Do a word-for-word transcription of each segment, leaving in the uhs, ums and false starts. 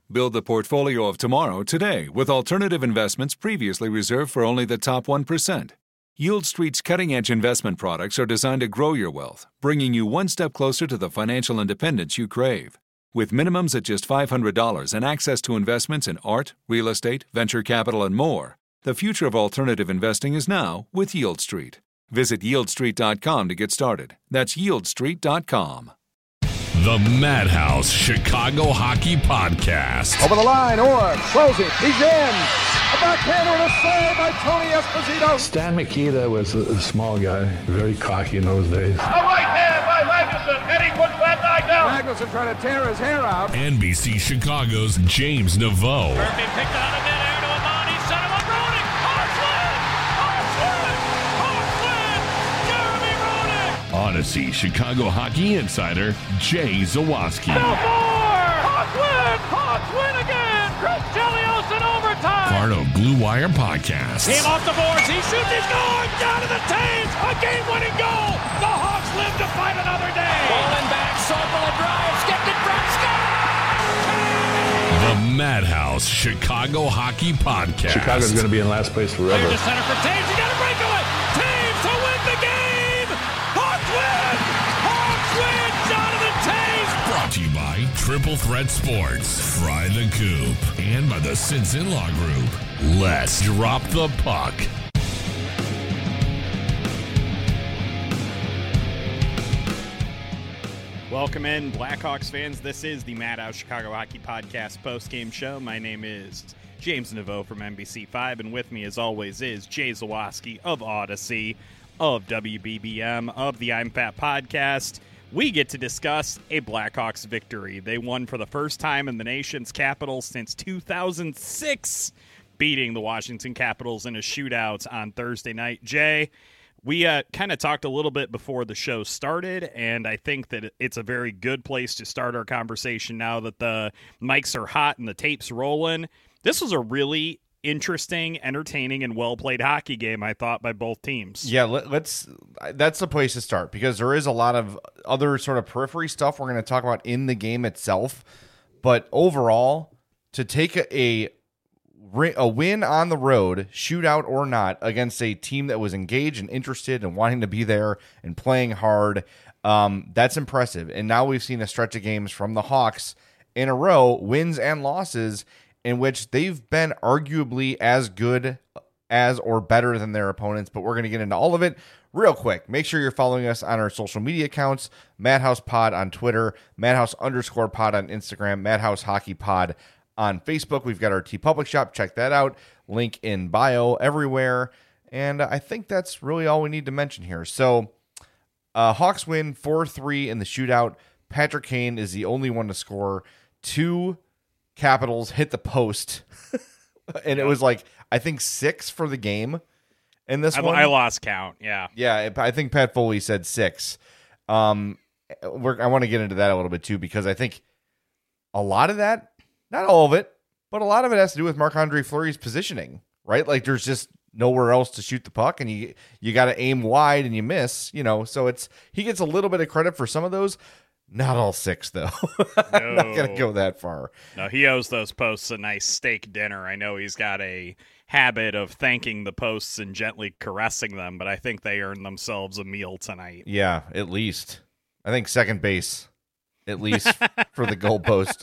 Build the portfolio of tomorrow today with alternative investments previously reserved for only the top one percent. Yield Street's cutting-edge investment products are designed to grow your wealth, bringing you one step closer to the financial independence you crave. With minimums at just five hundred dollars and access to investments in art, real estate, venture capital, and more, the future of alternative investing is now with Yield Street. Visit yield street dot com to get started. That's yield street dot com. The Madhouse Chicago Hockey Podcast. Over the line, Orr, closing, he's in. A backhander and a save by Tony Esposito. Stan Mikita was a, a small guy, very cocky in those days. A right hand by Magnuson, and he puts that guy down. Magnuson trying to tear his hair out. N B C Chicago's James Naveau. Murphy picked out of midair to Amani, set him up, Roenick. Hawks win! Hawks win! Hawks win! Jeremy Roenick! Odyssey Chicago Hockey Insider Jay Zawaski. No more! Hawks win! Hawks win again! Chris Chelios in overtime! Part of Blue Wire Podcast. Came off the boards, he shoots, he's going! Down to the Taves! A game-winning goal! The Hawks live to fight another day! Falling back, Sobel and drives, skipped it from Scott! The Madhouse Chicago Hockey Podcast. Chicago's going to be in last place forever. Clear to center for Taves, he got a breakaway! Taves to win the game! Hawks win! Hawks win! Jonathan Taves! Brought to you by Triple Threat Sports, Fry the Coop, and by the Since In-Law Group. Let's drop the puck. Welcome in, Blackhawks fans. This is the Madhouse Chicago Hockey Podcast post-game show. My name is James Naveau from N B C five, and with me, as always, is Jay Zawaski of Odyssey, of W B B M, of the I'm Fat Podcast. We get to discuss a Blackhawks victory. They won for the first time in the nation's capital since two thousand six, beating the Washington Capitals in a shootout on Thursday night. Jay, we uh, kind of talked a little bit before the show started, and I think that it's a very good place to start our conversation now that the mics are hot and the tape's rolling. This was a really interesting, entertaining, and well-played hockey game, I thought, by both teams. Yeah, let, let's. That's the place to start because there is a lot of other sort of periphery stuff we're going to talk about in the game itself. But overall, to take a, a a win on the road, shootout or not, against a team that was engaged and interested and wanting to be there and playing hard, um, that's impressive. And now we've seen a stretch of games from the Hawks in a row, wins and losses, in which they've been arguably as good as or better than their opponents, but we're going to get into all of it real quick. Make sure you're following us on our social media accounts, Madhouse Pod on Twitter, Madhouse underscore pod on Instagram, Madhouse Hockey Pod on Facebook. We've got our TeePublic shop. Check that out. Link in bio everywhere. And I think that's really all we need to mention here. So uh, Hawks win four three in the shootout. Patrick Kane is the only one to score. Two Capitals hit the post, and it was like, I think six for the game in this I, one. I lost count, yeah. Yeah, I think Pat Foley said six. Um, we're, I want to get into that a little bit, too, because I think a lot of that, not all of it, but a lot of it has to do with Marc-Andre Fleury's positioning, right? Like, there's just nowhere else to shoot the puck, and you you got to aim wide, and you miss, you know, so it's he gets a little bit of credit for some of those. Not all six, though. I'm not going to go that far. No, he owes those posts a nice steak dinner. I know he's got a habit of thanking the posts and gently caressing them, but I think they earned themselves a meal tonight. Yeah, at least. I think second base, at least, for the goalpost.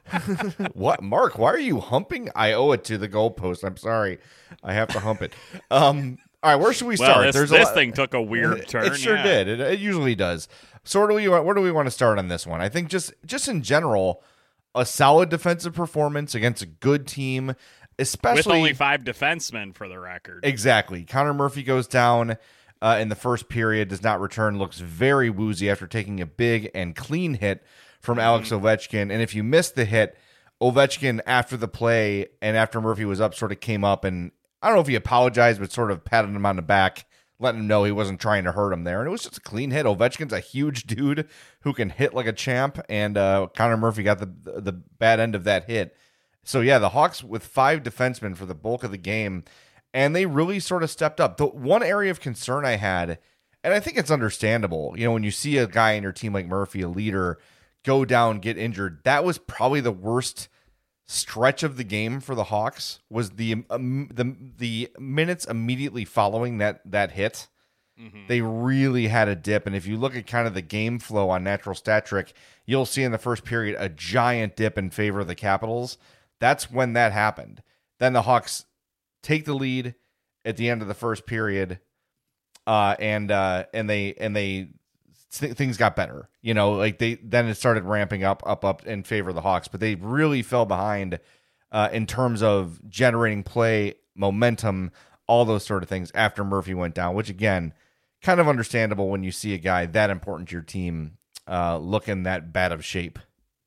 What? Mark, why are you humping? I owe it to the goalpost. I'm sorry. I have to hump it. Um, all right, where should we well, start? This, There's this a lot... thing took a weird turn. It sure yeah. did. It, it usually does. So where do we where do we want to start on this one? I think just just in general, a solid defensive performance against a good team, especially with only five defensemen for the record. Exactly. Connor Murphy goes down uh, in the first period, does not return, looks very woozy after taking a big and clean hit from mm-hmm. Alex Ovechkin. And if you missed the hit, Ovechkin after the play and after Murphy was up sort of came up and I don't know if he apologized, but sort of patted him on the back, letting him know he wasn't trying to hurt him there. And it was just a clean hit. Ovechkin's a huge dude who can hit like a champ, and uh, Connor Murphy got the the bad end of that hit. So, yeah, the Hawks with five defensemen for the bulk of the game, and they really sort of stepped up. The one area of concern I had, and I think it's understandable, you know, when you see a guy in your team like Murphy, a leader, go down, get injured, that was probably the worst stretch of the game for the Hawks was the um, the the minutes immediately following that that hit. Mm-hmm. They really had a dip, and if you look at kind of the game flow on Natural Stat Trick, you'll see in the first period a giant dip in favor of the Capitals. That's when that happened. Then the Hawks take the lead at the end of the first period, uh, and uh, and they and they th- things got better. You know, like they then it started ramping up, up, up in favor of the Hawks, but they really fell behind uh, in terms of generating play, momentum, all those sort of things after Murphy went down. Which again, kind of understandable when you see a guy that important to your team uh, looking that bad of shape.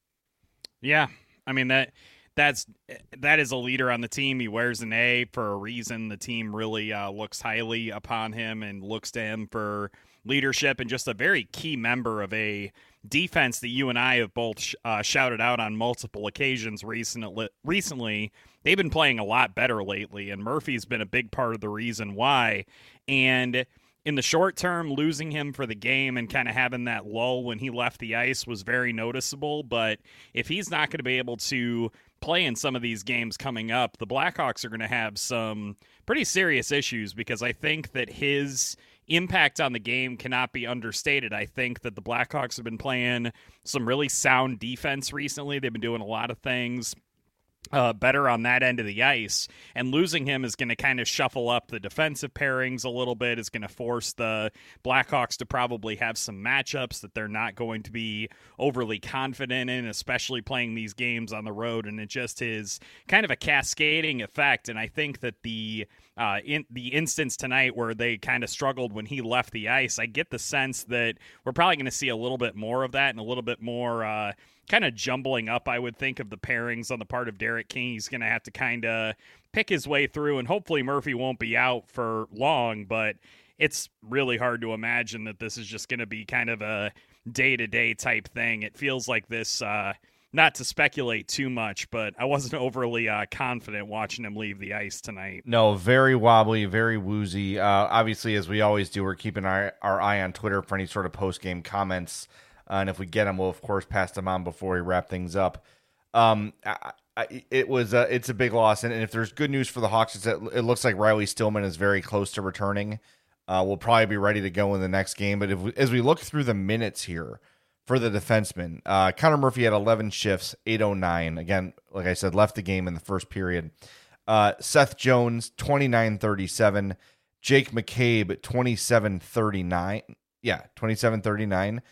Yeah, I mean that. That's that is a leader on the team. He wears an A for a reason. The team really uh, looks highly upon him and looks to him for leadership, and just a very key member of a defense that you and I have both sh- uh, shouted out on multiple occasions recently. Recently, they've been playing a lot better lately, and Murphy's been a big part of the reason why. And in the short term, losing him for the game and kind of having that lull when he left the ice was very noticeable. But if he's not going to be able to play in some of these games coming up, the Blackhawks are going to have some pretty serious issues, because I think that his impact on the game cannot be understated. I think that the Blackhawks have been playing some really sound defense recently. They've been doing a lot of things Uh, better on that end of the ice, and losing him is going to kind of shuffle up the defensive pairings a little bit. It's going to force the Blackhawks to probably have some matchups that they're not going to be overly confident in, especially playing these games on the road, and it just is kind of a cascading effect. And I think that the uh, in the instance tonight where they kind of struggled when he left the ice, I get the sense that we're probably going to see a little bit more of that and a little bit more uh, kind of jumbling up, I would think, of the pairings on the part of Derek King. He's going to have to kind of pick his way through, and hopefully Murphy won't be out for long, but it's really hard to imagine that this is just going to be kind of a day-to-day type thing. It feels like this, uh, not to speculate too much, but I wasn't overly uh, confident watching him leave the ice tonight. No, very wobbly, very woozy. Uh, obviously, as we always do, we're keeping our, our eye on Twitter for any sort of post-game comments. Uh, and if we get them, we'll of course pass them on before we wrap things up. Um, I, I, it was a, it's a big loss, and, and if there's good news for the Hawks, it's that it looks like Riley Stillman is very close to returning. Uh, we'll probably be ready to go in the next game. But if we, as we look through the minutes here for the defensemen, uh, Connor Murphy had eleven shifts, eight oh nine. Again, like I said, left the game in the first period. Uh, Seth Jones, twenty-nine thirty-seven. Jake McCabe, twenty-seven thirty-nine. Yeah, twenty-seven thirty-nine.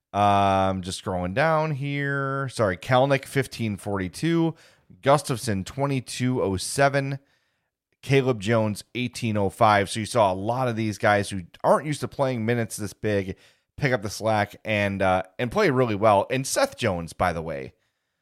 Um, just scrolling down here. Sorry, Kalnick, fifteen forty-two. Gustafson, twenty-two oh seven. Caleb Jones, eighteen oh five. So you saw a lot of these guys who aren't used to playing minutes this big pick up the slack and uh, and play really well. And Seth Jones, by the way,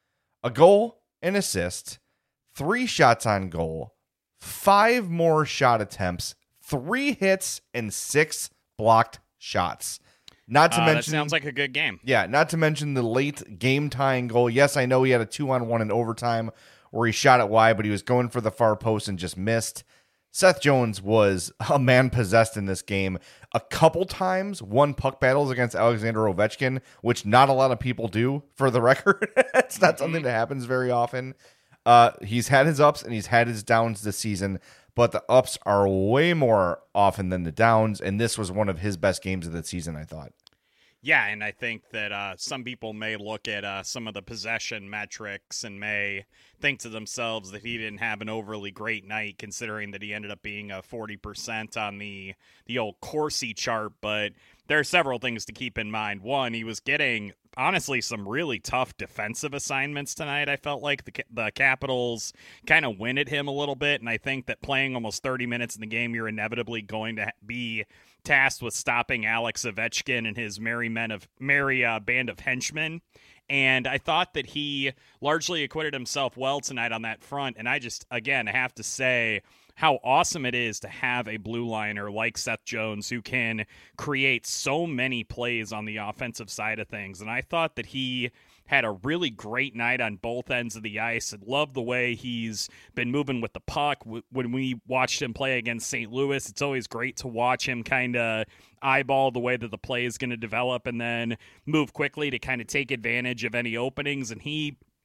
a goal, an assist, three shots on goal, five more shot attempts, three hits, and six blocked shots. Not to uh, mention, that sounds like a good game. Yeah, not to mention the late game-tying goal. Yes, I know he had a two-on-one in overtime where he shot it wide, but he was going for the far post and just missed. Seth Jones was a man possessed in this game. A couple times won puck battles against Alexander Ovechkin, which not a lot of people do, for the record. It's not something that happens very often. Uh, he's had his ups and he's had his downs this season, but the ups are way more often than the downs, and this was one of his best games of the season, I thought. Yeah, and I think that uh, some people may look at uh, some of the possession metrics and may think to themselves that he didn't have an overly great night, considering that he ended up being a forty percent on the, the old Corsi chart. But there are several things to keep in mind. One, he was getting, honestly, some really tough defensive assignments tonight. I felt like the the Capitals kind of winded him a little bit, and I think that playing almost thirty minutes in the game, you're inevitably going to be tasked with stopping Alex Ovechkin and his merry men of merry uh, band of henchmen. And I thought that he largely acquitted himself well tonight on that front. And I just, again, have to say how awesome it is to have a blue liner like Seth Jones who can create so many plays on the offensive side of things. And I thought that he had a really great night on both ends of the ice. I love the way he's been moving with the puck. When we watched him play against Saint Louis, it's always great to watch him kind of eyeball the way that the play is going to develop and then move quickly to kind of take advantage of any openings. And he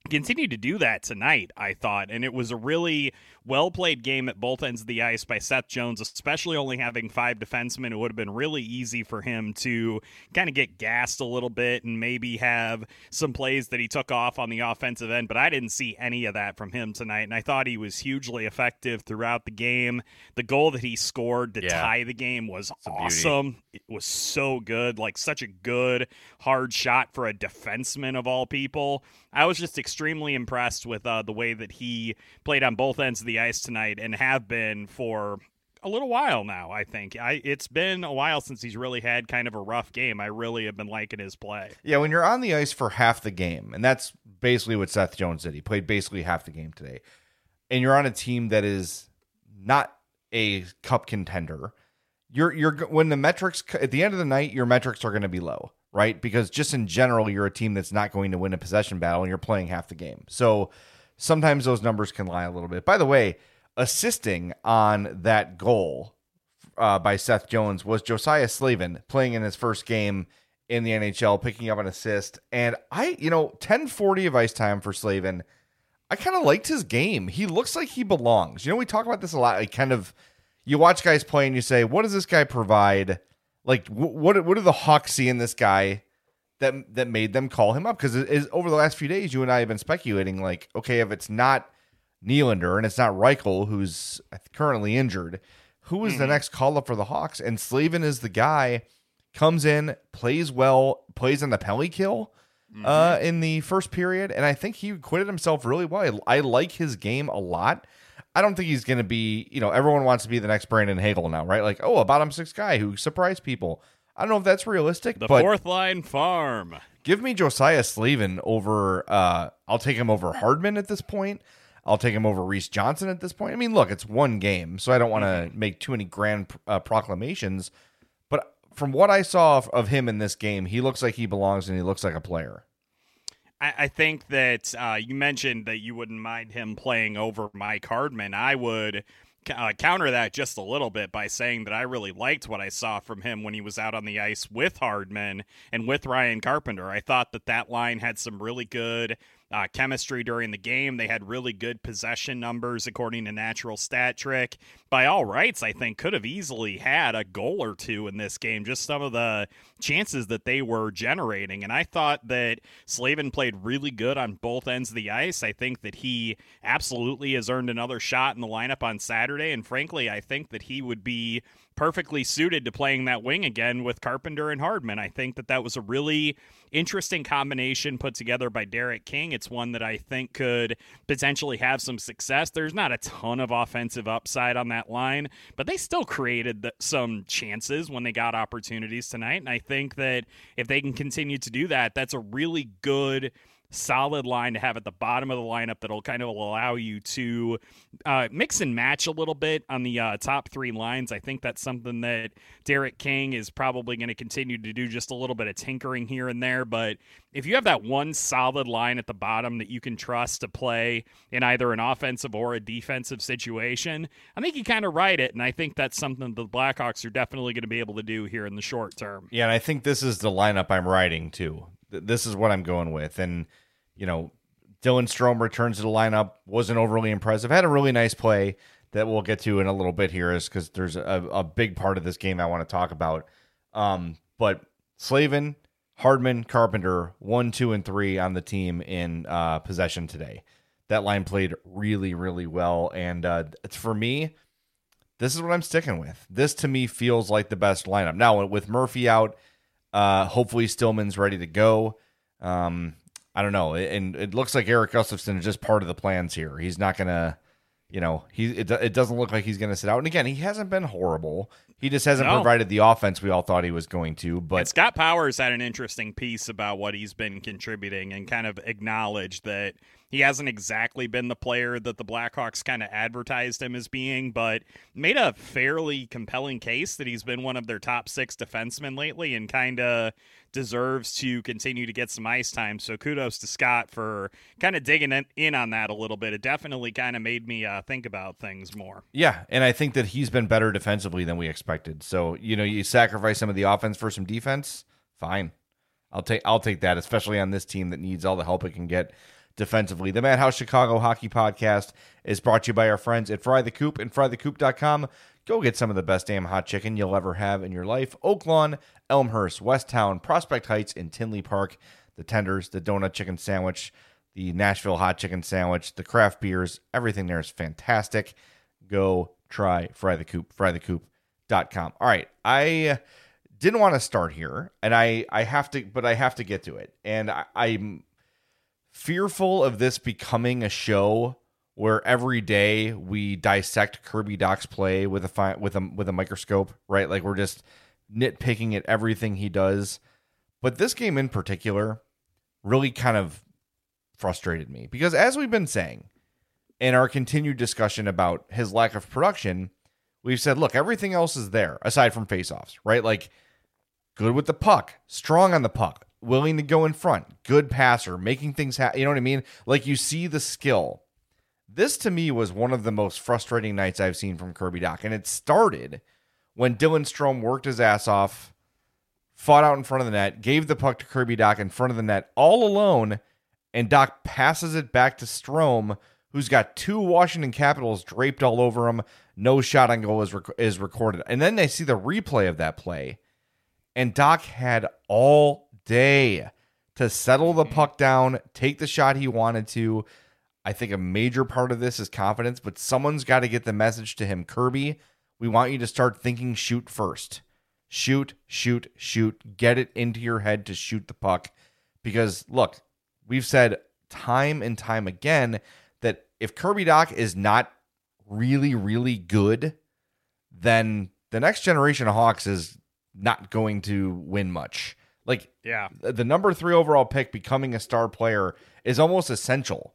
continued to do that tonight, I thought, and it was a really well-played game at both ends of the ice by Seth Jones, especially only having five defensemen. It would have been really easy for him to kind of get gassed a little bit and maybe have some plays that he took off on the offensive end, but I didn't see any of that from him tonight, and I thought he was hugely effective throughout the game. The goal that he scored to yeah. tie the game was awesome. It was so good, like such a good, hard shot for a defenseman of all people. I was just extremely impressed with uh, the way that he played on both ends of the ice tonight and have been for a little while now, I think. I, it's been a while since he's really had kind of a rough game. I really have been liking his play. Yeah, when you're on the ice for half the game, and that's basically what Seth Jones did. He played basically half the game today. And you're on a team that is not a cup contender. You're you're when the metrics, at the end of the night, your metrics are going to be low. Right? Because just in general, you're a team that's not going to win a possession battle and you're playing half the game. So sometimes those numbers can lie a little bit. By the way, assisting on that goal uh, by Seth Jones was Josiah Slavin playing in his first game in the N H L, picking up an assist. And I, you know, ten forty of ice time for Slavin. I kind of liked his game. He looks like he belongs. You know, we talk about this a lot. Like kind of, you watch guys play and you say, what does this guy provide? Like, what what do the Hawks see in this guy that that made them call him up? Because it is, over the last few days, you and I have been speculating, like, okay, if it's not Nylander and it's not Reichel, who's currently injured, who is mm-hmm. the next call-up for the Hawks? And Slavin is the guy, comes in, plays well, plays on the penalty kill mm-hmm. uh, in the first period, and I think he acquitted himself really well. I, I like his game a lot. I don't think he's going to be, you know, everyone wants to be the next Brandon Hagel now, right? Like, oh, a bottom six guy who surprised people. I don't know if that's realistic. The but fourth line farm. Give me Josiah Slavin over, uh, I'll take him over Hardman at this point. I'll take him over Reese Johnson at this point. I mean, look, it's one game, so I don't want to mm-hmm. make too many grand uh, proclamations. But from what I saw of, of him in this game, he looks like he belongs and he looks like a player. I think that uh, you mentioned that you wouldn't mind him playing over Mike Hardman. I would uh, counter that just a little bit by saying that I really liked what I saw from him when he was out on the ice with Hardman and with Ryan Carpenter. I thought that that line had some really good Uh, chemistry during the game. They had really good possession numbers according to Natural Stat Trick. By all rights, I think could have easily had a goal or two in this game, just some of the chances that they were generating. And I thought that Slavin played really good on both ends of the ice. I think that he absolutely has earned another shot in the lineup on Saturday. And frankly, I think that he would be perfectly suited to playing that wing again with Carpenter and Hardman. I think that that was a really interesting combination put together by Derek King. It's one that I think could potentially have some success. There's not a ton of offensive upside on that line, but they still created the, some chances when they got opportunities tonight. And I think that if they can continue to do that, that's a really good solid line to have at the bottom of the lineup that'll kind of allow you to uh, mix and match a little bit on the uh, top three lines. I think that's something that Derek King is probably going to continue to do, just a little bit of tinkering here and there. But if you have that one solid line at the bottom that you can trust to play in either an offensive or a defensive situation, I think you kind of ride it. And I think that's something the Blackhawks are definitely going to be able to do here in the short term. Yeah, and I think this is the lineup I'm riding too. This is what I'm going with. And, you know, Dylan Strome returns to the lineup, wasn't overly impressive, had a really nice play that we'll get to in a little bit here, is because there's a, a big part of this game I want to talk about. Um, but Slavin, Hardman, Carpenter, one, two, and three on the team in uh, possession today. That line played really, really well. And uh, it's, for me, this is what I'm sticking with. This, to me, feels like the best lineup. Now, with Murphy out, uh, hopefully Stillman's ready to go. Um, I don't know. And it looks like Eric Gustafsson is just part of the plans here. He's not going to, you know, he it, it doesn't look like he's going to sit out. And again, he hasn't been horrible. He just hasn't no. provided the offense we all thought he was going to. But and Scott Powers had an interesting piece about what he's been contributing and kind of acknowledged that he hasn't exactly been the player that the Blackhawks kind of advertised him as being, but made a fairly compelling case that he's been one of their top six defensemen lately and kind of deserves to continue to get some ice time. So kudos to Scott for kind of digging in on that a little bit. It definitely kind of made me uh, think about things more. Yeah, and I think that he's been better defensively than we expected. So, you know, you sacrifice some of the offense for some defense, fine. I'll take I'll take that, especially on this team that needs all the help it can get defensively. The Madhouse Chicago Hockey Podcast is brought to you by our friends at Fry the Coop and fry the coop dot com. Go get some of the best damn hot chicken you'll ever have in your life. Oak Lawn, Elmhurst, Westtown, Prospect Heights, and Tinley Park. The tenders, the donut chicken sandwich, the Nashville hot chicken sandwich, the craft beers, everything there is fantastic. Go try Fry the Coop, fry the coop dot com. All right, I didn't want to start here, and I, I have to, but I have to get to it. And I, I'm fearful of this becoming a show where every day we dissect Kirby Dach's play with a fi- with a with a microscope, right? Like we're just nitpicking at everything he does. But this game in particular really kind of frustrated me because, as we've been saying in our continued discussion about his lack of production, we've said, look, everything else is there aside from faceoffs, right? Like good with the puck, strong on the puck, willing to go in front, good passer, making things happen. You know what I mean? Like you see the skill. This to me was one of the most frustrating nights I've seen from Kirby Dach. And it started when Dylan Strome worked his ass off, fought out in front of the net, gave the puck to Kirby Dach in front of the net all alone, and Dach passes it back to Strome, who's got two Washington Capitals draped all over him. No shot on goal is, rec- is recorded. And then they see the replay of that play, and Dach had all day to settle the puck down, take the shot he wanted to. I think a major part of this is confidence, but someone's got to get the message to him. Kirby, we want you to start thinking shoot first. Shoot, shoot, shoot. Get it into your head to shoot the puck. Because, look, we've said time and time again that if Kirby Dach is not really, really good, then the next generation of Hawks is not going to win much. Like, yeah, the number three overall pick becoming a star player is almost essential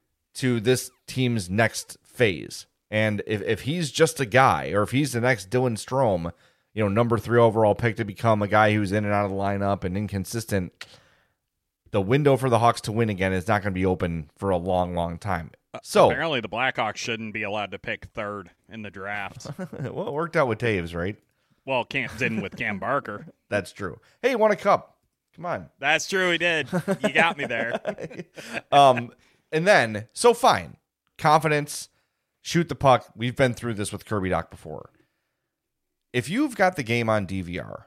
to this team's next phase. And if, if he's just a guy, or if he's the next Dylan Strome, you know, number three overall pick to become a guy who's in and out of the lineup and inconsistent, the window for the Hawks to win again is not going to be open for a long, long time. So apparently the Blackhawks shouldn't be allowed to pick third in the draft. Well, it worked out with Taves, right? Well, Cam didn't with Cam Barker. That's true. Hey, he won a cup. Come on. That's true, he did. You got me there. um, and then, so fine. Confidence, shoot the puck. We've been through this with Kirby Dach before. If you've got the game on D V R,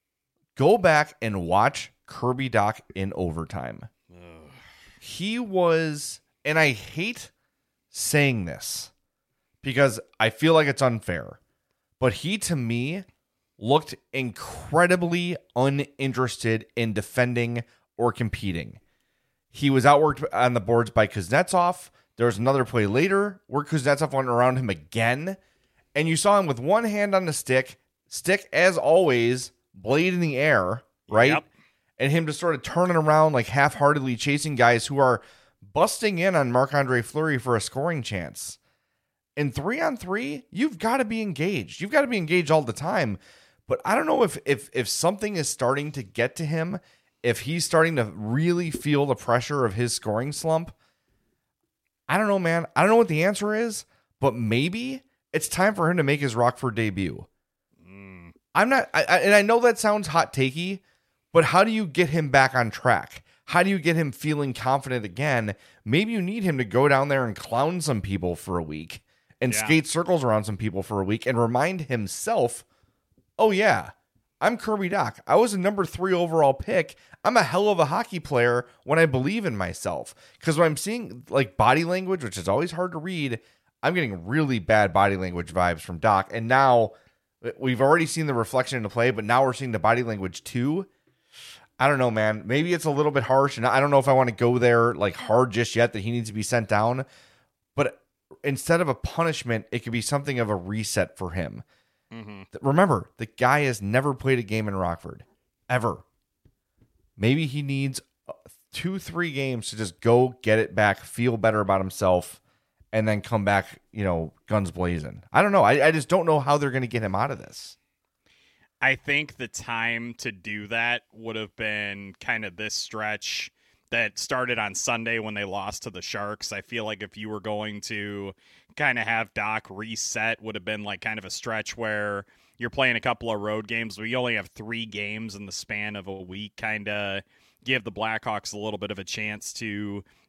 go back and watch Kirby Dach in overtime. Ugh. He was, and I hate saying this because I feel like it's unfair, but he, to me, looked incredibly uninterested in defending or competing. He was outworked on the boards by Kuznetsov. There was another play later where Kuznetsov went around him again, and you saw him with one hand on the stick, stick as always, blade in the air, right? Yep. And him just sort of turning around like half-heartedly chasing guys who are busting in on Marc-Andre Fleury for a scoring chance. In three on three, you've got to be engaged. You've got to be engaged all the time. But I don't know if if if something is starting to get to him, if he's starting to really feel the pressure of his scoring slump. I don't know, man. I don't know what the answer is, but maybe it's time for him to make his Rockford debut. Mm. I'm not, I, I, and I know that sounds hot takey, but how do you get him back on track? How do you get him feeling confident again? Maybe you need him to go down there and clown some people for a week and yeah. skate circles around some people for a week and remind himself, oh yeah, I'm Kirby Dach. I was a number three overall pick. I'm a hell of a hockey player when I believe in myself. Because when I'm seeing like body language, which is always hard to read, I'm getting really bad body language vibes from Dach. And now we've already seen the reflection in the play, but now we're seeing the body language too. I don't know, man. Maybe it's a little bit harsh, and I don't know if I want to go there like hard just yet that he needs to be sent down. But instead of a punishment, it could be something of a reset for him. Mm-hmm. Remember, the guy has never played a game in Rockford, ever. Maybe he needs two, three games to just go get it back, feel better about himself, and then come back, you know, guns blazing. I don't know. I, I just don't know how they're going to get him out of this. I think the time to do that would have been kind of this stretch that started on Sunday when they lost to the Sharks. I feel like if you were going to kind of have Dach reset, would have been like kind of a stretch where you're playing a couple of road games. We only have three games in the span of a week, kind of give the Blackhawks a little bit of a chance to,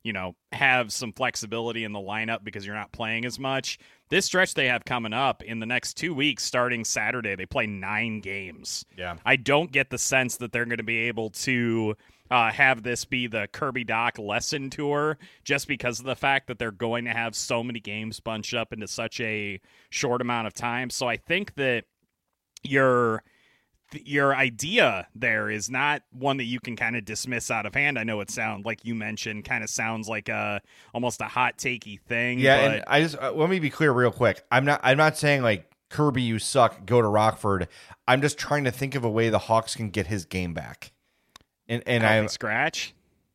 you know, have some flexibility in the lineup because you're not playing as much. This stretch they have coming up in the next two weeks, starting Saturday, they play nine games. Yeah. I don't get the sense that they're going to be able to uh, have this be the Kirby Dach lesson tour just because of the fact that they're going to have so many games bunched up into such a short amount of time. So I think that your your idea there is not one that you can kind of dismiss out of hand. I know it sounds like you mentioned kind of sounds like a almost a hot takey thing. Yeah, but and I just uh, let me be clear real quick. I'm not I'm not saying like Kirby, you suck, go to Rockford. I'm just trying to think of a way the Hawks can get his game back. And and I scratch.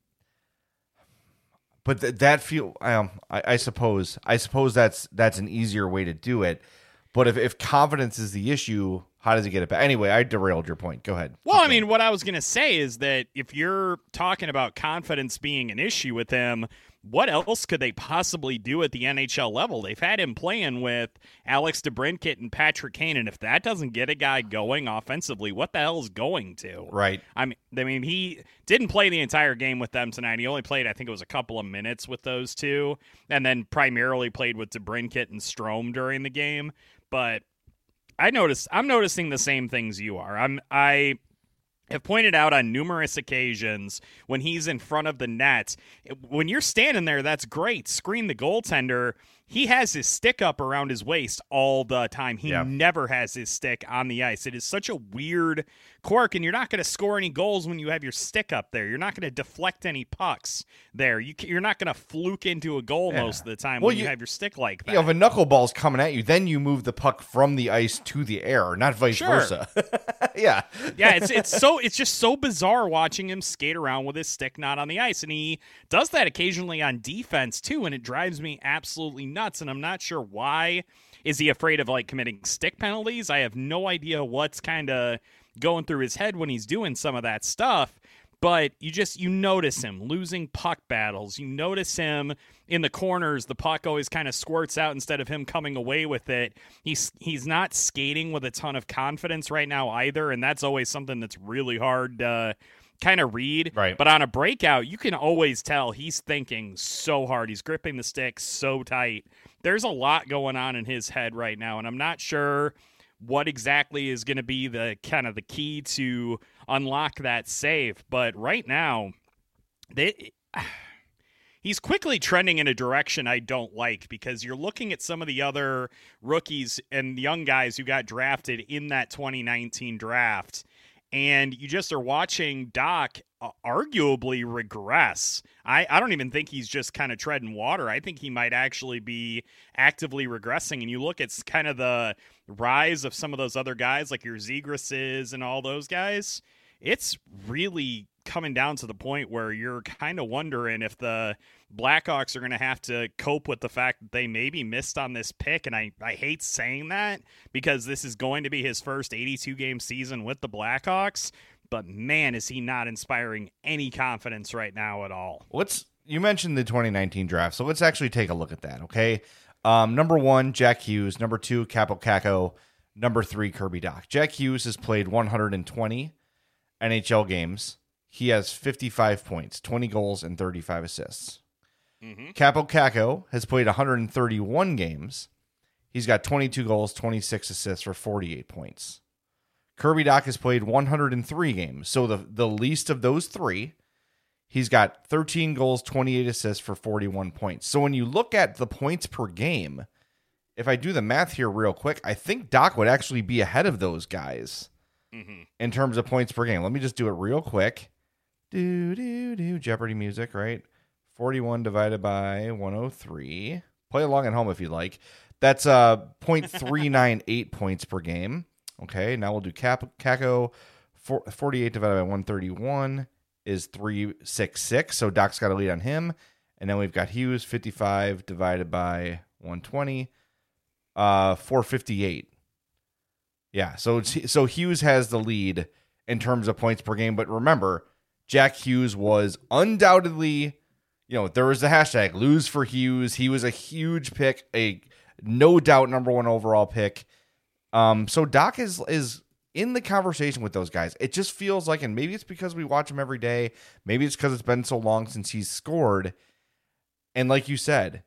But th- that feel um, I, I suppose I suppose that's that's an easier way to do it. But if, if confidence is the issue, how does he get it back? Anyway, I derailed your point. Go ahead. Well, I mean, what I was going to say is that if you're talking about confidence being an issue with him, what else could they possibly do at the N H L level? They've had him playing with Alex DeBrincat and Patrick Kane, and if that doesn't get a guy going offensively, what the hell is going to? Right. I mean, I mean, he didn't play the entire game with them tonight. He only played, I think it was a couple of minutes with those two, and then primarily played with DeBrincat and Strome during the game. But I noticed, I'm noticing the same things you are. I'm, I have pointed out on numerous occasions when he's in front of the net, when you're standing there, that's great. Screen the goaltender. He has his stick up around his waist all the time. He yeah. never has his stick on the ice. It is such a weird quirk, and you're not going to score any goals when you have your stick up there. You're not going to deflect any pucks there. You, you're not going to fluke into a goal yeah. most of the time well, when you, you have your stick like that. You know, if a knuckleball's coming at you, then you move the puck from the ice to the air, not vice sure. versa. yeah. yeah, it's it's so it's just so bizarre watching him skate around with his stick not on the ice. And he does that occasionally on defense too, and it drives me absolutely nuts. And I'm not sure why. Is he afraid of like committing stick penalties? I have no idea what's kind of going through his head when he's doing some of that stuff. But you just, you notice him losing puck battles. You notice him in the corners. The puck always kind of squirts out instead of him coming away with it. He's he's not skating with a ton of confidence right now either. And that's always something that's really hard to kind of read. Right. But on a breakout, you can always tell he's thinking so hard. He's gripping the stick so tight. There's a lot going on in his head right now. And I'm not sure what exactly is going to be the kind of the key to unlock that save. But right now, they, he's quickly trending in a direction I don't like, because you're looking at some of the other rookies and young guys who got drafted in that twenty nineteen draft, and you just are watching Dach uh, arguably regress. I, I don't even think he's just kind of treading water. I think he might actually be actively regressing. And you look at kind of the rise of some of those other guys like your Zegrases and all those guys. It's really coming down to the point where you're kind of wondering if the Blackhawks are going to have to cope with the fact that they maybe missed on this pick. And I, I hate saying that because this is going to be his first eighty-two game season with the Blackhawks. But man, is he not inspiring any confidence right now at all. Let's, you mentioned the twenty nineteen draft, so let's actually take a look at that, okay? Um, number one, Jack Hughes. Number two, Kaapo Kakko. Number three, Kirby Dach. Jack Hughes has played one hundred twenty N H L games. He has fifty-five points, twenty goals, and thirty-five assists. Mm-hmm. Kaapo Kakko has played one hundred thirty-one games. He's got twenty-two goals, twenty-six assists for forty-eight points. Kirby Dach has played one hundred three games. So the, the least of those three, he's got thirteen goals, twenty-eight assists for forty-one points. So when you look at the points per game, if I do the math here real quick, I think Dach would actually be ahead of those guys mm-hmm. in terms of points per game. Let me just do it real quick. Do, do, do. Jeopardy music, right? forty-one divided by one hundred three. Play along at home if you like. That's uh, zero point three nine eight points per game. Okay, now we'll do Cap- Kakko. forty-eight divided by one hundred thirty-one is three sixty-six. So Dach's got a lead on him. And then we've got Hughes, fifty-five divided by one hundred twenty, uh, four fifty-eight. Yeah, so it's, so Hughes has the lead in terms of points per game. But remember, Jack Hughes was undoubtedly, you know, there was the hashtag lose for Hughes. He was a huge pick, a no doubt number one overall pick. Um, so Dach is is in the conversation with those guys. It just feels like, and maybe it's because we watch him every day, maybe it's because it's been so long since he's scored. And like you said,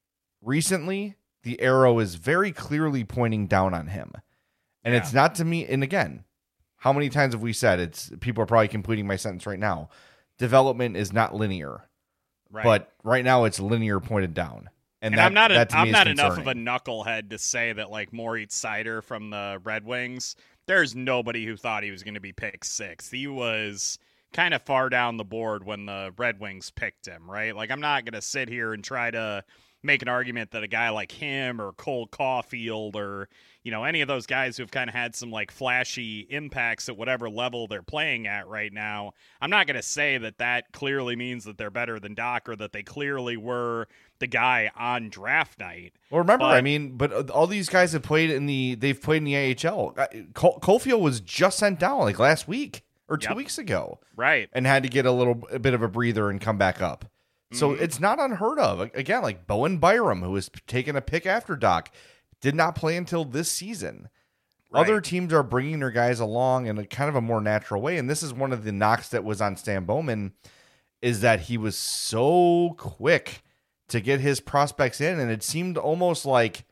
recently the arrow is very clearly pointing down on him. And yeah. it's not to me. And again, how many times have we said it's people are probably completing my sentence right now. Development is not linear, right. But right now it's linear pointed down. And, and that, I'm not, a, I'm not concerning. enough of a knucklehead to say that like Moritz Seider from the Red Wings, there's nobody who thought he was going to be picked sixth. He was kind of far down the board when the Red Wings picked him, right? Like I'm not going to sit here and try to make an argument that a guy like him or Cole Caulfield or, you know, any of those guys who've kind of had some like flashy impacts at whatever level they're playing at right now, I'm not going to say that that clearly means that they're better than Doc or that they clearly were the guy on draft night. Well, remember, but, I mean, but all these guys have played in the, they've played in the A H L. Col- Caulfield was just sent down like last week or two yep. weeks ago. Right. And had to get a little a bit of a breather and come back up. So mm-hmm. it's not unheard of. Again, like Bowen Byram, who was taking a pick after Doc, did not play until this season. Right. Other teams are bringing their guys along in a kind of a more natural way. And this is one of the knocks that was on Stan Bowman, is that he was so quick to get his prospects in. And it seemed almost like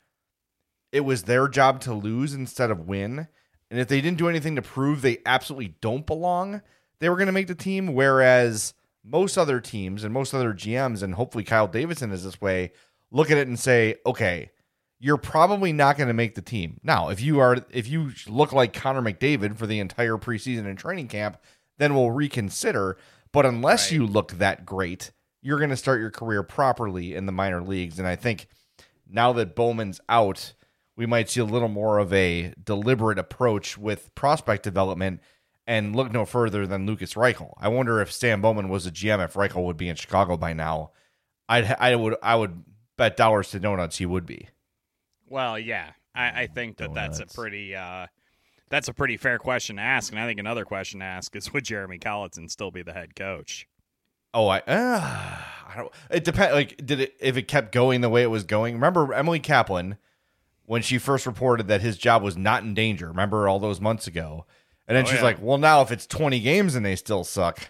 it was their job to lose instead of win. And if they didn't do anything to prove they absolutely don't belong, they were going to make the team. Whereas most other teams and most other G Ms, and hopefully Kyle Davidson is this way, look at it and say, okay, you're probably not going to make the team. Now, if you are, if you look like Connor McDavid for the entire preseason and training camp, then we'll reconsider. But unless right. you look that great, you're going to start your career properly in the minor leagues. And I think now that Bowman's out, we might see a little more of a deliberate approach with prospect development. And look no further than Lucas Reichel. I wonder if Stan Bowman was a G M, if Reichel would be in Chicago by now. I'd, I would I would bet dollars to donuts he would be. Well, yeah, I, I think that donuts. that's a pretty uh, that's a pretty fair question to ask. And I think another question to ask is, would Jeremy Colliton still be the head coach? Oh, I, uh, I don't. It depends. Like, did it if it kept going the way it was going? Remember Emily Kaplan when she first reported that his job was not in danger? Remember all those months ago? And then oh, she's yeah. like, well, now if it's twenty games and they still suck,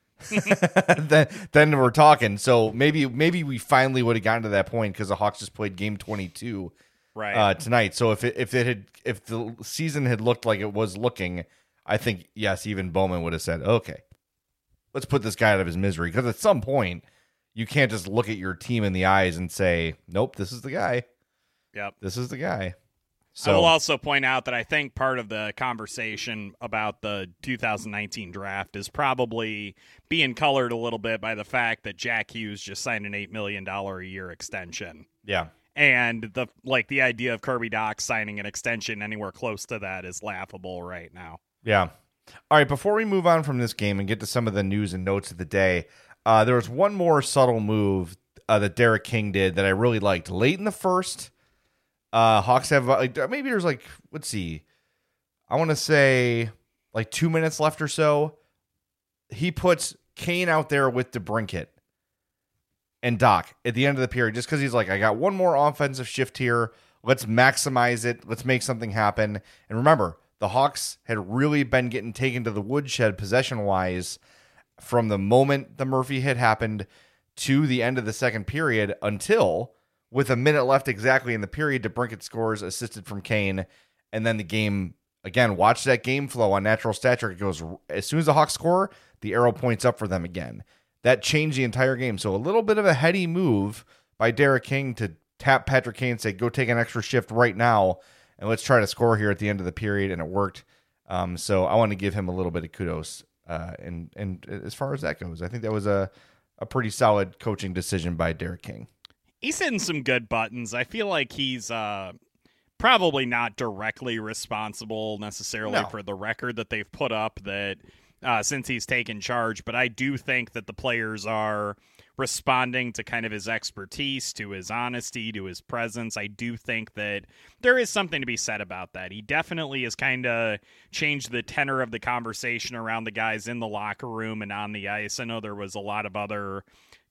then then we're talking. So maybe maybe we finally would have gotten to that point because the Hawks just played game twenty-two right. uh, tonight. So if it, if it had if the season had looked like it was looking, I think, yes, even Bowman would have said, okay, let's put this guy out of his misery. Because at some point, you can't just look at your team in the eyes and say, nope, this is the guy. Yep. This is the guy. So, I will also point out that I think part of the conversation about the two thousand nineteen draft is probably being colored a little bit by the fact that Jack Hughes just signed an eight million dollars a year extension. Yeah. And the like the idea of Kirby Dach signing an extension anywhere close to that is laughable right now. Yeah. All right, before we move on from this game and get to some of the news and notes of the day, uh, there was one more subtle move uh, that Derek King did that I really liked. Late in the first, Uh, Hawks have like maybe there's like let's see, I want to say like two minutes left or so. He puts Kane out there with DeBrincat and Doc at the end of the period just because he's like, I got one more offensive shift here. Let's maximize it. Let's make something happen. And remember, the Hawks had really been getting taken to the woodshed possession wise from the moment the Murphy hit happened to the end of the second period until, with a minute left exactly in the period, DeBrincat scores, assisted from Kane, and then the game, again, watch that game flow on natural stature. It goes, as soon as the Hawks score, the arrow points up for them again. That changed the entire game. So a little bit of a heady move by Derek King to tap Patrick Kane and say, go take an extra shift right now, and let's try to score here at the end of the period, and it worked. Um, so I want to give him a little bit of kudos. Uh, and, and as far as that goes, I think that was a, a pretty solid coaching decision by Derek King. He's hitting some good buttons. I feel like he's uh, probably not directly responsible necessarily no. for the record that they've put up that uh, since he's taken charge, but I do think that the players are responding to kind of his expertise, to his honesty, to his presence. I do think that there is something to be said about that. He definitely has kind of changed the tenor of the conversation around the guys in the locker room and on the ice. I know there was a lot of other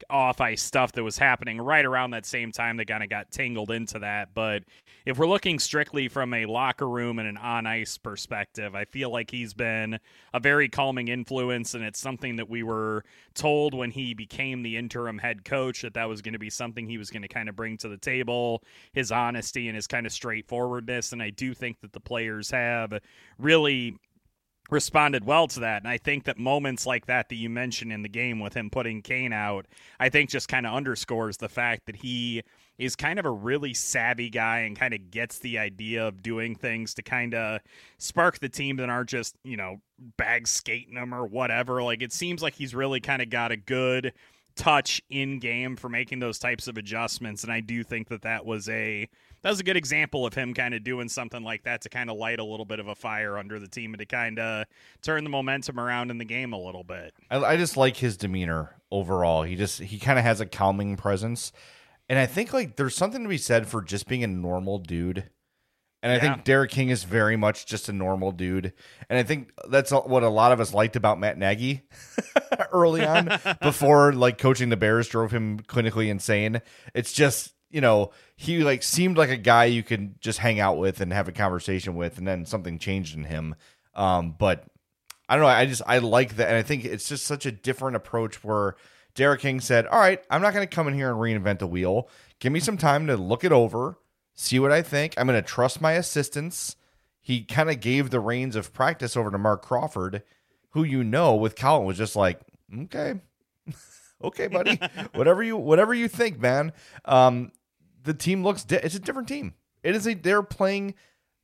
off-ice stuff that was happening right around that same time that kind of got tangled into that. But if we're looking strictly from a locker room and an on-ice perspective, I feel like he's been a very calming influence, and it's something that we were told when he became the interim head coach that that was going to be something he was going to kind of bring to the table, his honesty and his kind of straightforwardness. And I do think that the players have really responded well to that. And I think that moments like that that you mentioned in the game with him putting Kane out, I think just kind of underscores the fact that he is kind of a really savvy guy and kind of gets the idea of doing things to kind of spark the team that aren't just, you know, bag skating them or whatever. Like, it seems like he's really kind of got a good touch in game for making those types of adjustments. And I do think that that was a that was a good example of him kind of doing something like that to kind of light a little bit of a fire under the team and to kind of turn the momentum around in the game a little bit. I, I just like his demeanor overall. He just he kind of has a calming presence, and I think like there's something to be said for just being a normal dude. And I Yeah. think Derek King is very much just a normal dude. And I think that's what a lot of us liked about Matt Nagy early on before like coaching the Bears drove him clinically insane. It's just, you know, he like seemed like a guy you could just hang out with and have a conversation with, and then something changed in him. Um, but I don't know. I just, I like that. And I think it's just such a different approach where Derek King said, all right, I'm not going to come in here and reinvent the wheel. Give me some time to look it over, see what I think. I'm going to trust my assistants. He kind of gave the reins of practice over to Mark Crawford, who, you know, with Colin was just like, okay, okay, buddy, whatever you, whatever you think, man. Um, the team looks, di- it's a different team. It is a, they're playing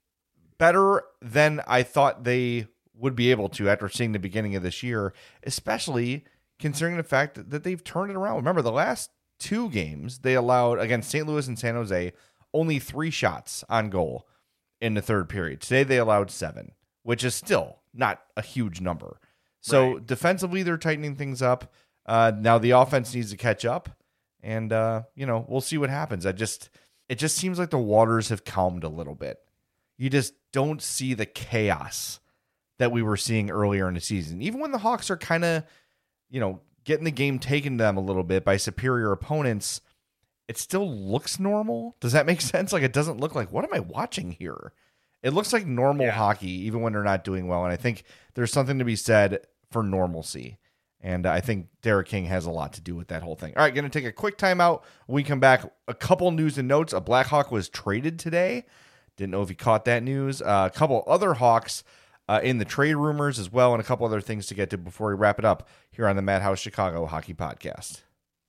better than I thought they would be able to after seeing the beginning of this year, especially considering the fact that, that they've turned it around. Remember, the last two games they allowed against Saint Louis and San Jose only three shots on goal in the third period. Today they allowed seven, which is still not a huge number. So Right. defensively, they're tightening things up. Uh, now the offense needs to catch up, and uh, you know, we'll see what happens. I just, it just seems like the waters have calmed a little bit. You just don't see the chaos that we were seeing earlier in the season. Even when the Hawks are kind of, you know, getting the game taken to them a little bit by superior opponents, it still looks normal. Does that make sense? Like, it doesn't look like, what am I watching here? It looks like normal Yeah. hockey, even when they're not doing well. And I think there's something to be said for normalcy. And I think Derek King has a lot to do with that whole thing. All right, going to take a quick timeout. When we come back, a couple news and notes. A Blackhawk was traded today. Didn't know if you caught that news. Uh, a couple other Hawks uh, in the trade rumors as well, and a couple other things to get to before we wrap it up here on the Madhouse Chicago Hockey Podcast.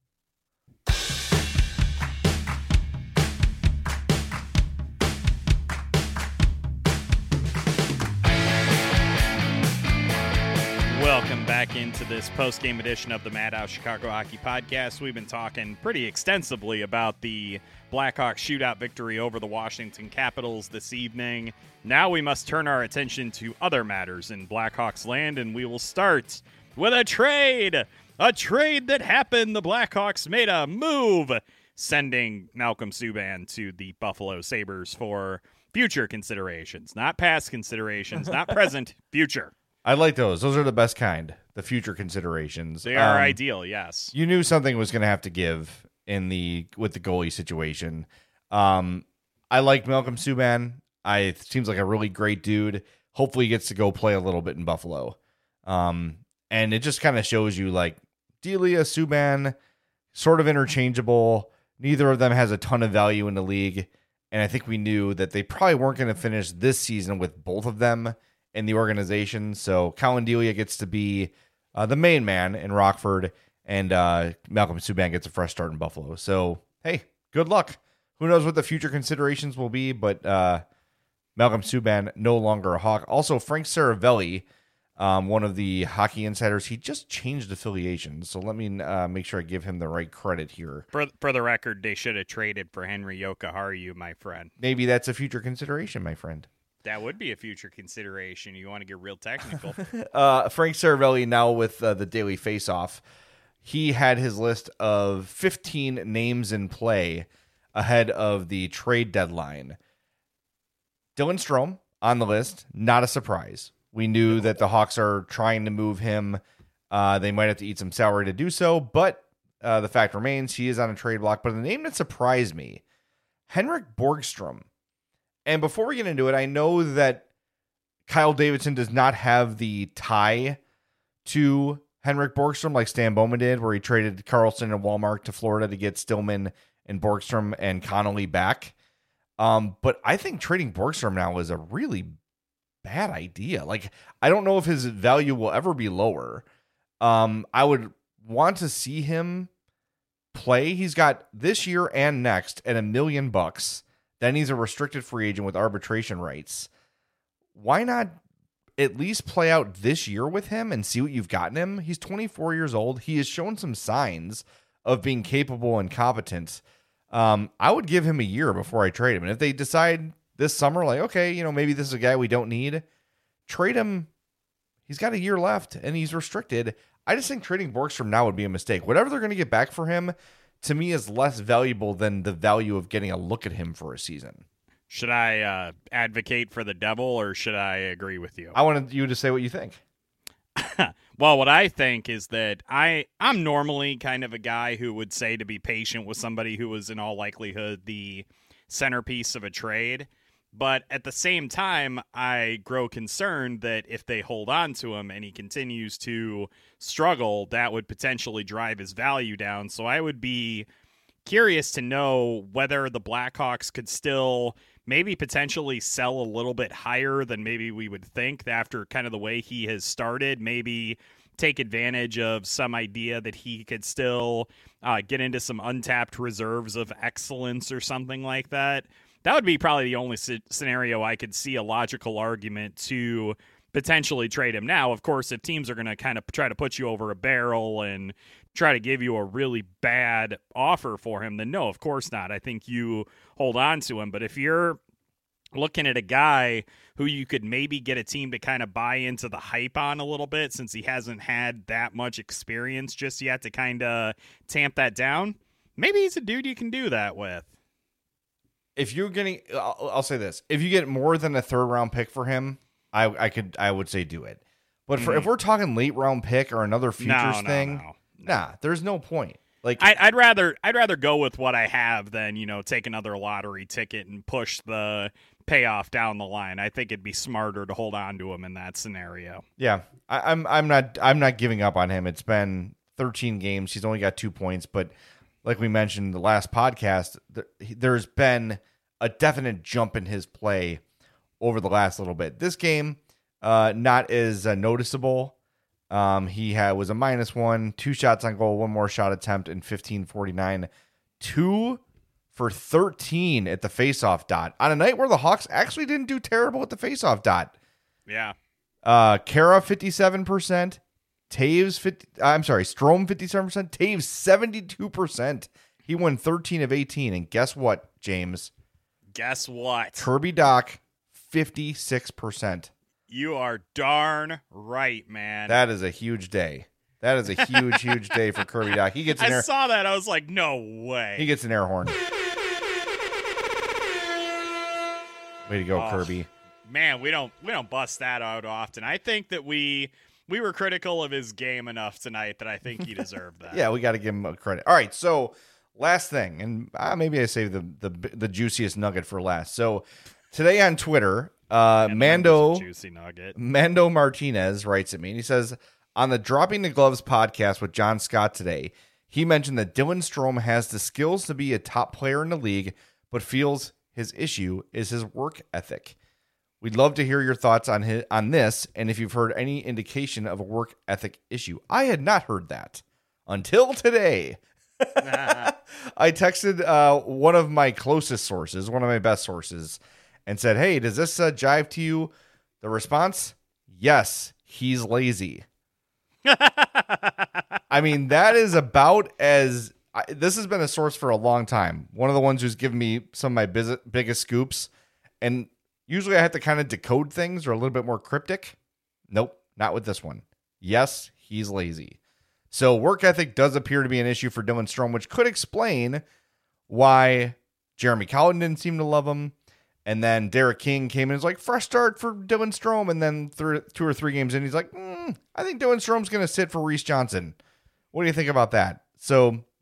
Welcome back into this post-game edition of the Madhouse Chicago Hockey Podcast. We've been talking pretty extensively about the Blackhawks shootout victory over the Washington Capitals this evening. Now we must turn our attention to other matters in Blackhawks land, and we will start with a trade. A trade that happened. The Blackhawks made a move, sending Malcolm Subban to the Buffalo Sabres for future considerations. Not past considerations, not present, future. I like those. Those are the best kind. The future considerations. They are Um, ideal, yes. You knew something was going to have to give in the with the goalie situation. Um, I like Malcolm Subban. I it seems like a really great dude. Hopefully, he gets to go play a little bit in Buffalo. Um, and it just kind of shows you like Delia, Subban, sort of interchangeable. Neither of them has a ton of value in the league, and I think we knew that they probably weren't going to finish this season with both of them in the organization. So Colin Delia gets to be uh, the main man in Rockford, and uh, Malcolm Subban gets a fresh start in Buffalo. So, hey, good luck. Who knows what the future considerations will be, but uh, Malcolm Subban no longer a Hawk. Also, Frank Saravelli, um, one of the hockey insiders, he just changed affiliations. So let me uh, make sure I give him the right credit here. For for the record, they should have traded for Henry Yokoharu, my friend. Maybe that's a future consideration, my friend. That would be a future consideration. You want to get real technical. Uh, Frank Saravelli now with uh, the Daily Face-Off. He had his list of fifteen names in play ahead of the trade deadline. Dylan Strome on the list, not a surprise. We knew no. that the Hawks are trying to move him. Uh, they might have to eat some salary to do so, but uh, the fact remains he is on a trade block, but the name that surprised me, Henrik Borgstrom. And before we get into it, I know that Kyle Davidson does not have the tie to Henrik Borgstrom like Stan Bowman did, where he traded Carlson and Walmart to Florida to get Stillman and Borgstrom and Connolly back. Um, but I think trading Borgstrom now is a really bad idea. Like, I don't know if his value will ever be lower. Um, I would want to see him play. He's got this year and next at a million bucks. Then he's a restricted free agent with arbitration rights. Why not at least play out this year with him and see what you've gotten him? He's twenty-four years old. He has shown some signs of being capable and competent. Um, I would give him a year before I trade him. And if they decide this summer, like, okay, you know, maybe this is a guy we don't need, trade him. He's got a year left and he's restricted. I just think trading Borgstrom now would be a mistake. Whatever they're going to get back for him, to me, is less valuable than the value of getting a look at him for a season. Should I uh, advocate for the devil, or should I agree with you? I wanted you to say what you think. Well, what I think is that I, I'm normally kind of a guy who would say to be patient with somebody who was in all likelihood the centerpiece of a trade. But at the same time, I grow concerned that if they hold on to him and he continues to struggle, that would potentially drive his value down. So I would be curious to know whether the Blackhawks could still maybe potentially sell a little bit higher than maybe we would think after kind of the way he has started. Maybe take advantage of some idea that he could still uh, get into some untapped reserves of excellence or something like that. That would be probably the only c- scenario I could see a logical argument to potentially trade him. Now, of course, if teams are going to kind of try to put you over a barrel and try to give you a really bad offer for him, then no, of course not. I think you hold on to him. But if you're looking at a guy who you could maybe get a team to kind of buy into the hype on a little bit, since he hasn't had that much experience just yet to kind of tamp that down, maybe he's a dude you can do that with. If you're getting, I'll, I'll say this: if you get more than a third round pick for him, I, I could, I would say do it. But for, mm-hmm. if we're talking late round pick or another futures no, no, thing, no, no. nah, there's no point. Like I, I'd rather, I'd rather go with what I have than you know take another lottery ticket and push the payoff down the line. I think it'd be smarter to hold on to him in that scenario. Yeah, I, I'm, I'm not, I'm not giving up on him. It's been thirteen games. He's only got two points, but like we mentioned in the last podcast, there, there's been a definite jump in his play over the last little bit. This game, uh, not as uh, noticeable. Um, he had was a minus one, two shots on goal, one more shot attempt in fifteen forty-nine, two for thirteen at the faceoff dot on a night where the Hawks actually didn't do terrible at the faceoff dot. Yeah. Uh, Kara fifty-seven percent, Taves fifty. I'm sorry, Strome fifty-seven percent, Taves seventy-two percent. He won thirteen of eighteen, and guess what, James? Guess what? Kirby Dach, fifty-six percent. You are darn right, man. That is a huge day. That is a huge, huge day for Kirby Dach. He gets an I air. saw that. I was like, no way. He gets an air horn. Way to go, oh, Kirby. Man, we don't we don't bust that out often. I think that we we were critical of his game enough tonight that I think he deserved that. Yeah, we got to give him a credit. All right, so last thing, and uh, maybe I saved the, the the juiciest nugget for last. So today on Twitter, uh, Mando juicy nugget. Mando Martinez writes at me, and he says, on the Dropping the Gloves podcast with John Scott today, he mentioned that Dylan Strome has the skills to be a top player in the league, but feels his issue is his work ethic. We'd love to hear your thoughts on his, on this, and if you've heard any indication of a work ethic issue. I had not heard that until today. I texted uh, one of my closest sources, one of my best sources, and said, hey, does this uh, jive to you? The response, yes, he's lazy. I mean, that is about as... I, this has been a source for a long time. One of the ones who's given me some of my biz- biggest scoops, and usually I have to kind of decode things or a little bit more cryptic. Nope, not with this one. Yes, he's lazy. So work ethic does appear to be an issue for Dylan Strome, which could explain why Jeremy Colliton didn't seem to love him. And then Derek King came in and was like, fresh start for Dylan Strome. And then th- two or three games in, he's like, mm, I think Dylan Strome's going to sit for Reese Johnson. What do you think about that? So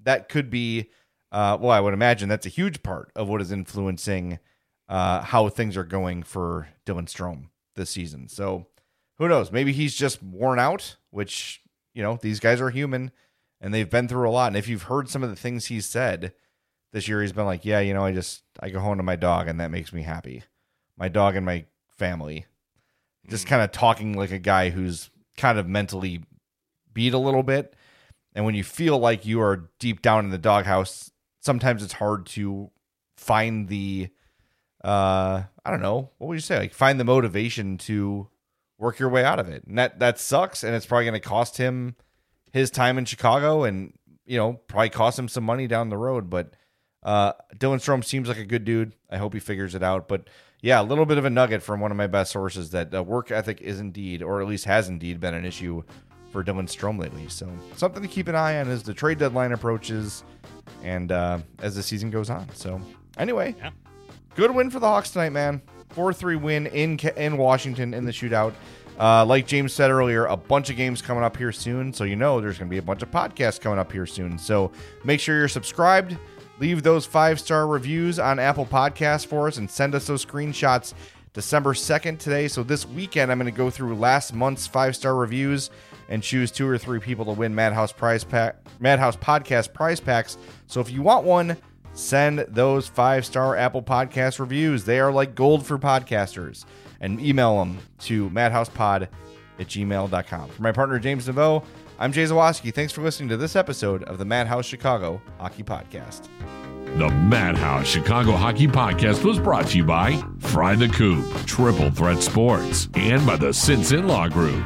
that could be, uh, well, I would imagine that's a huge part of what is influencing uh, how things are going for Dylan Strome this season. So who knows? Maybe he's just worn out, which, you know, these guys are human and they've been through a lot. And if you've heard some of the things he's said this year, he's been like, yeah, you know, I just, I go home to my dog and that makes me happy. My dog and my family. Just kind of talking like a guy who's kind of mentally beat a little bit. And when you feel like you are deep down in the doghouse, sometimes it's hard to find the, uh, I don't know, what would you say? Like find the motivation to work your way out of it. And that, that sucks. And it's probably going to cost him his time in Chicago and, you know, probably cost him some money down the road. But uh, Dylan Strome seems like a good dude. I hope he figures it out. But yeah, a little bit of a nugget from one of my best sources that uh, work ethic is indeed, or at least has indeed been an issue for Dylan Strome lately. So something to keep an eye on as the trade deadline approaches and uh, as the season goes on. So anyway, yeah. Good win for the Hawks tonight, man. four three win in in Washington in the shootout. Uh, like James said earlier, a bunch of games coming up here soon. So you know there's going to be a bunch of podcasts coming up here soon. So make sure you're subscribed. Leave those five-star reviews on Apple Podcasts for us and send us those screenshots December second today. So this weekend, I'm going to go through last month's five-star reviews and choose two or three people to win Madhouse prize pack, Madhouse Podcast prize packs. So if you want one, send those five-star Apple Podcast reviews. They are like gold for podcasters. And email them to madhousepod at gmail dot com. For my partner, James Naveau, I'm Jay Zawaski. Thanks for listening to this episode of the Madhouse Chicago Hockey Podcast. The Madhouse Chicago Hockey Podcast was brought to you by Fry the Coop, Triple Threat Sports, and by the Sinson Law Group.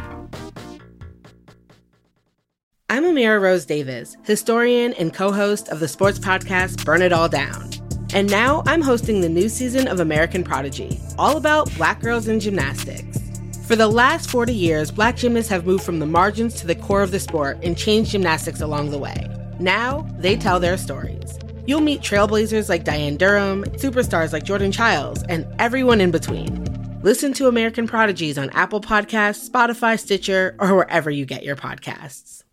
I'm Amira Rose Davis, historian and co-host of the sports podcast Burn It All Down. And now I'm hosting the new season of American Prodigy, all about Black girls in gymnastics. For the last forty years, Black gymnasts have moved from the margins to the core of the sport and changed gymnastics along the way. Now, they tell their stories. You'll meet trailblazers like Diane Durham, superstars like Jordan Childs, and everyone in between. Listen to American Prodigies on Apple Podcasts, Spotify, Stitcher, or wherever you get your podcasts.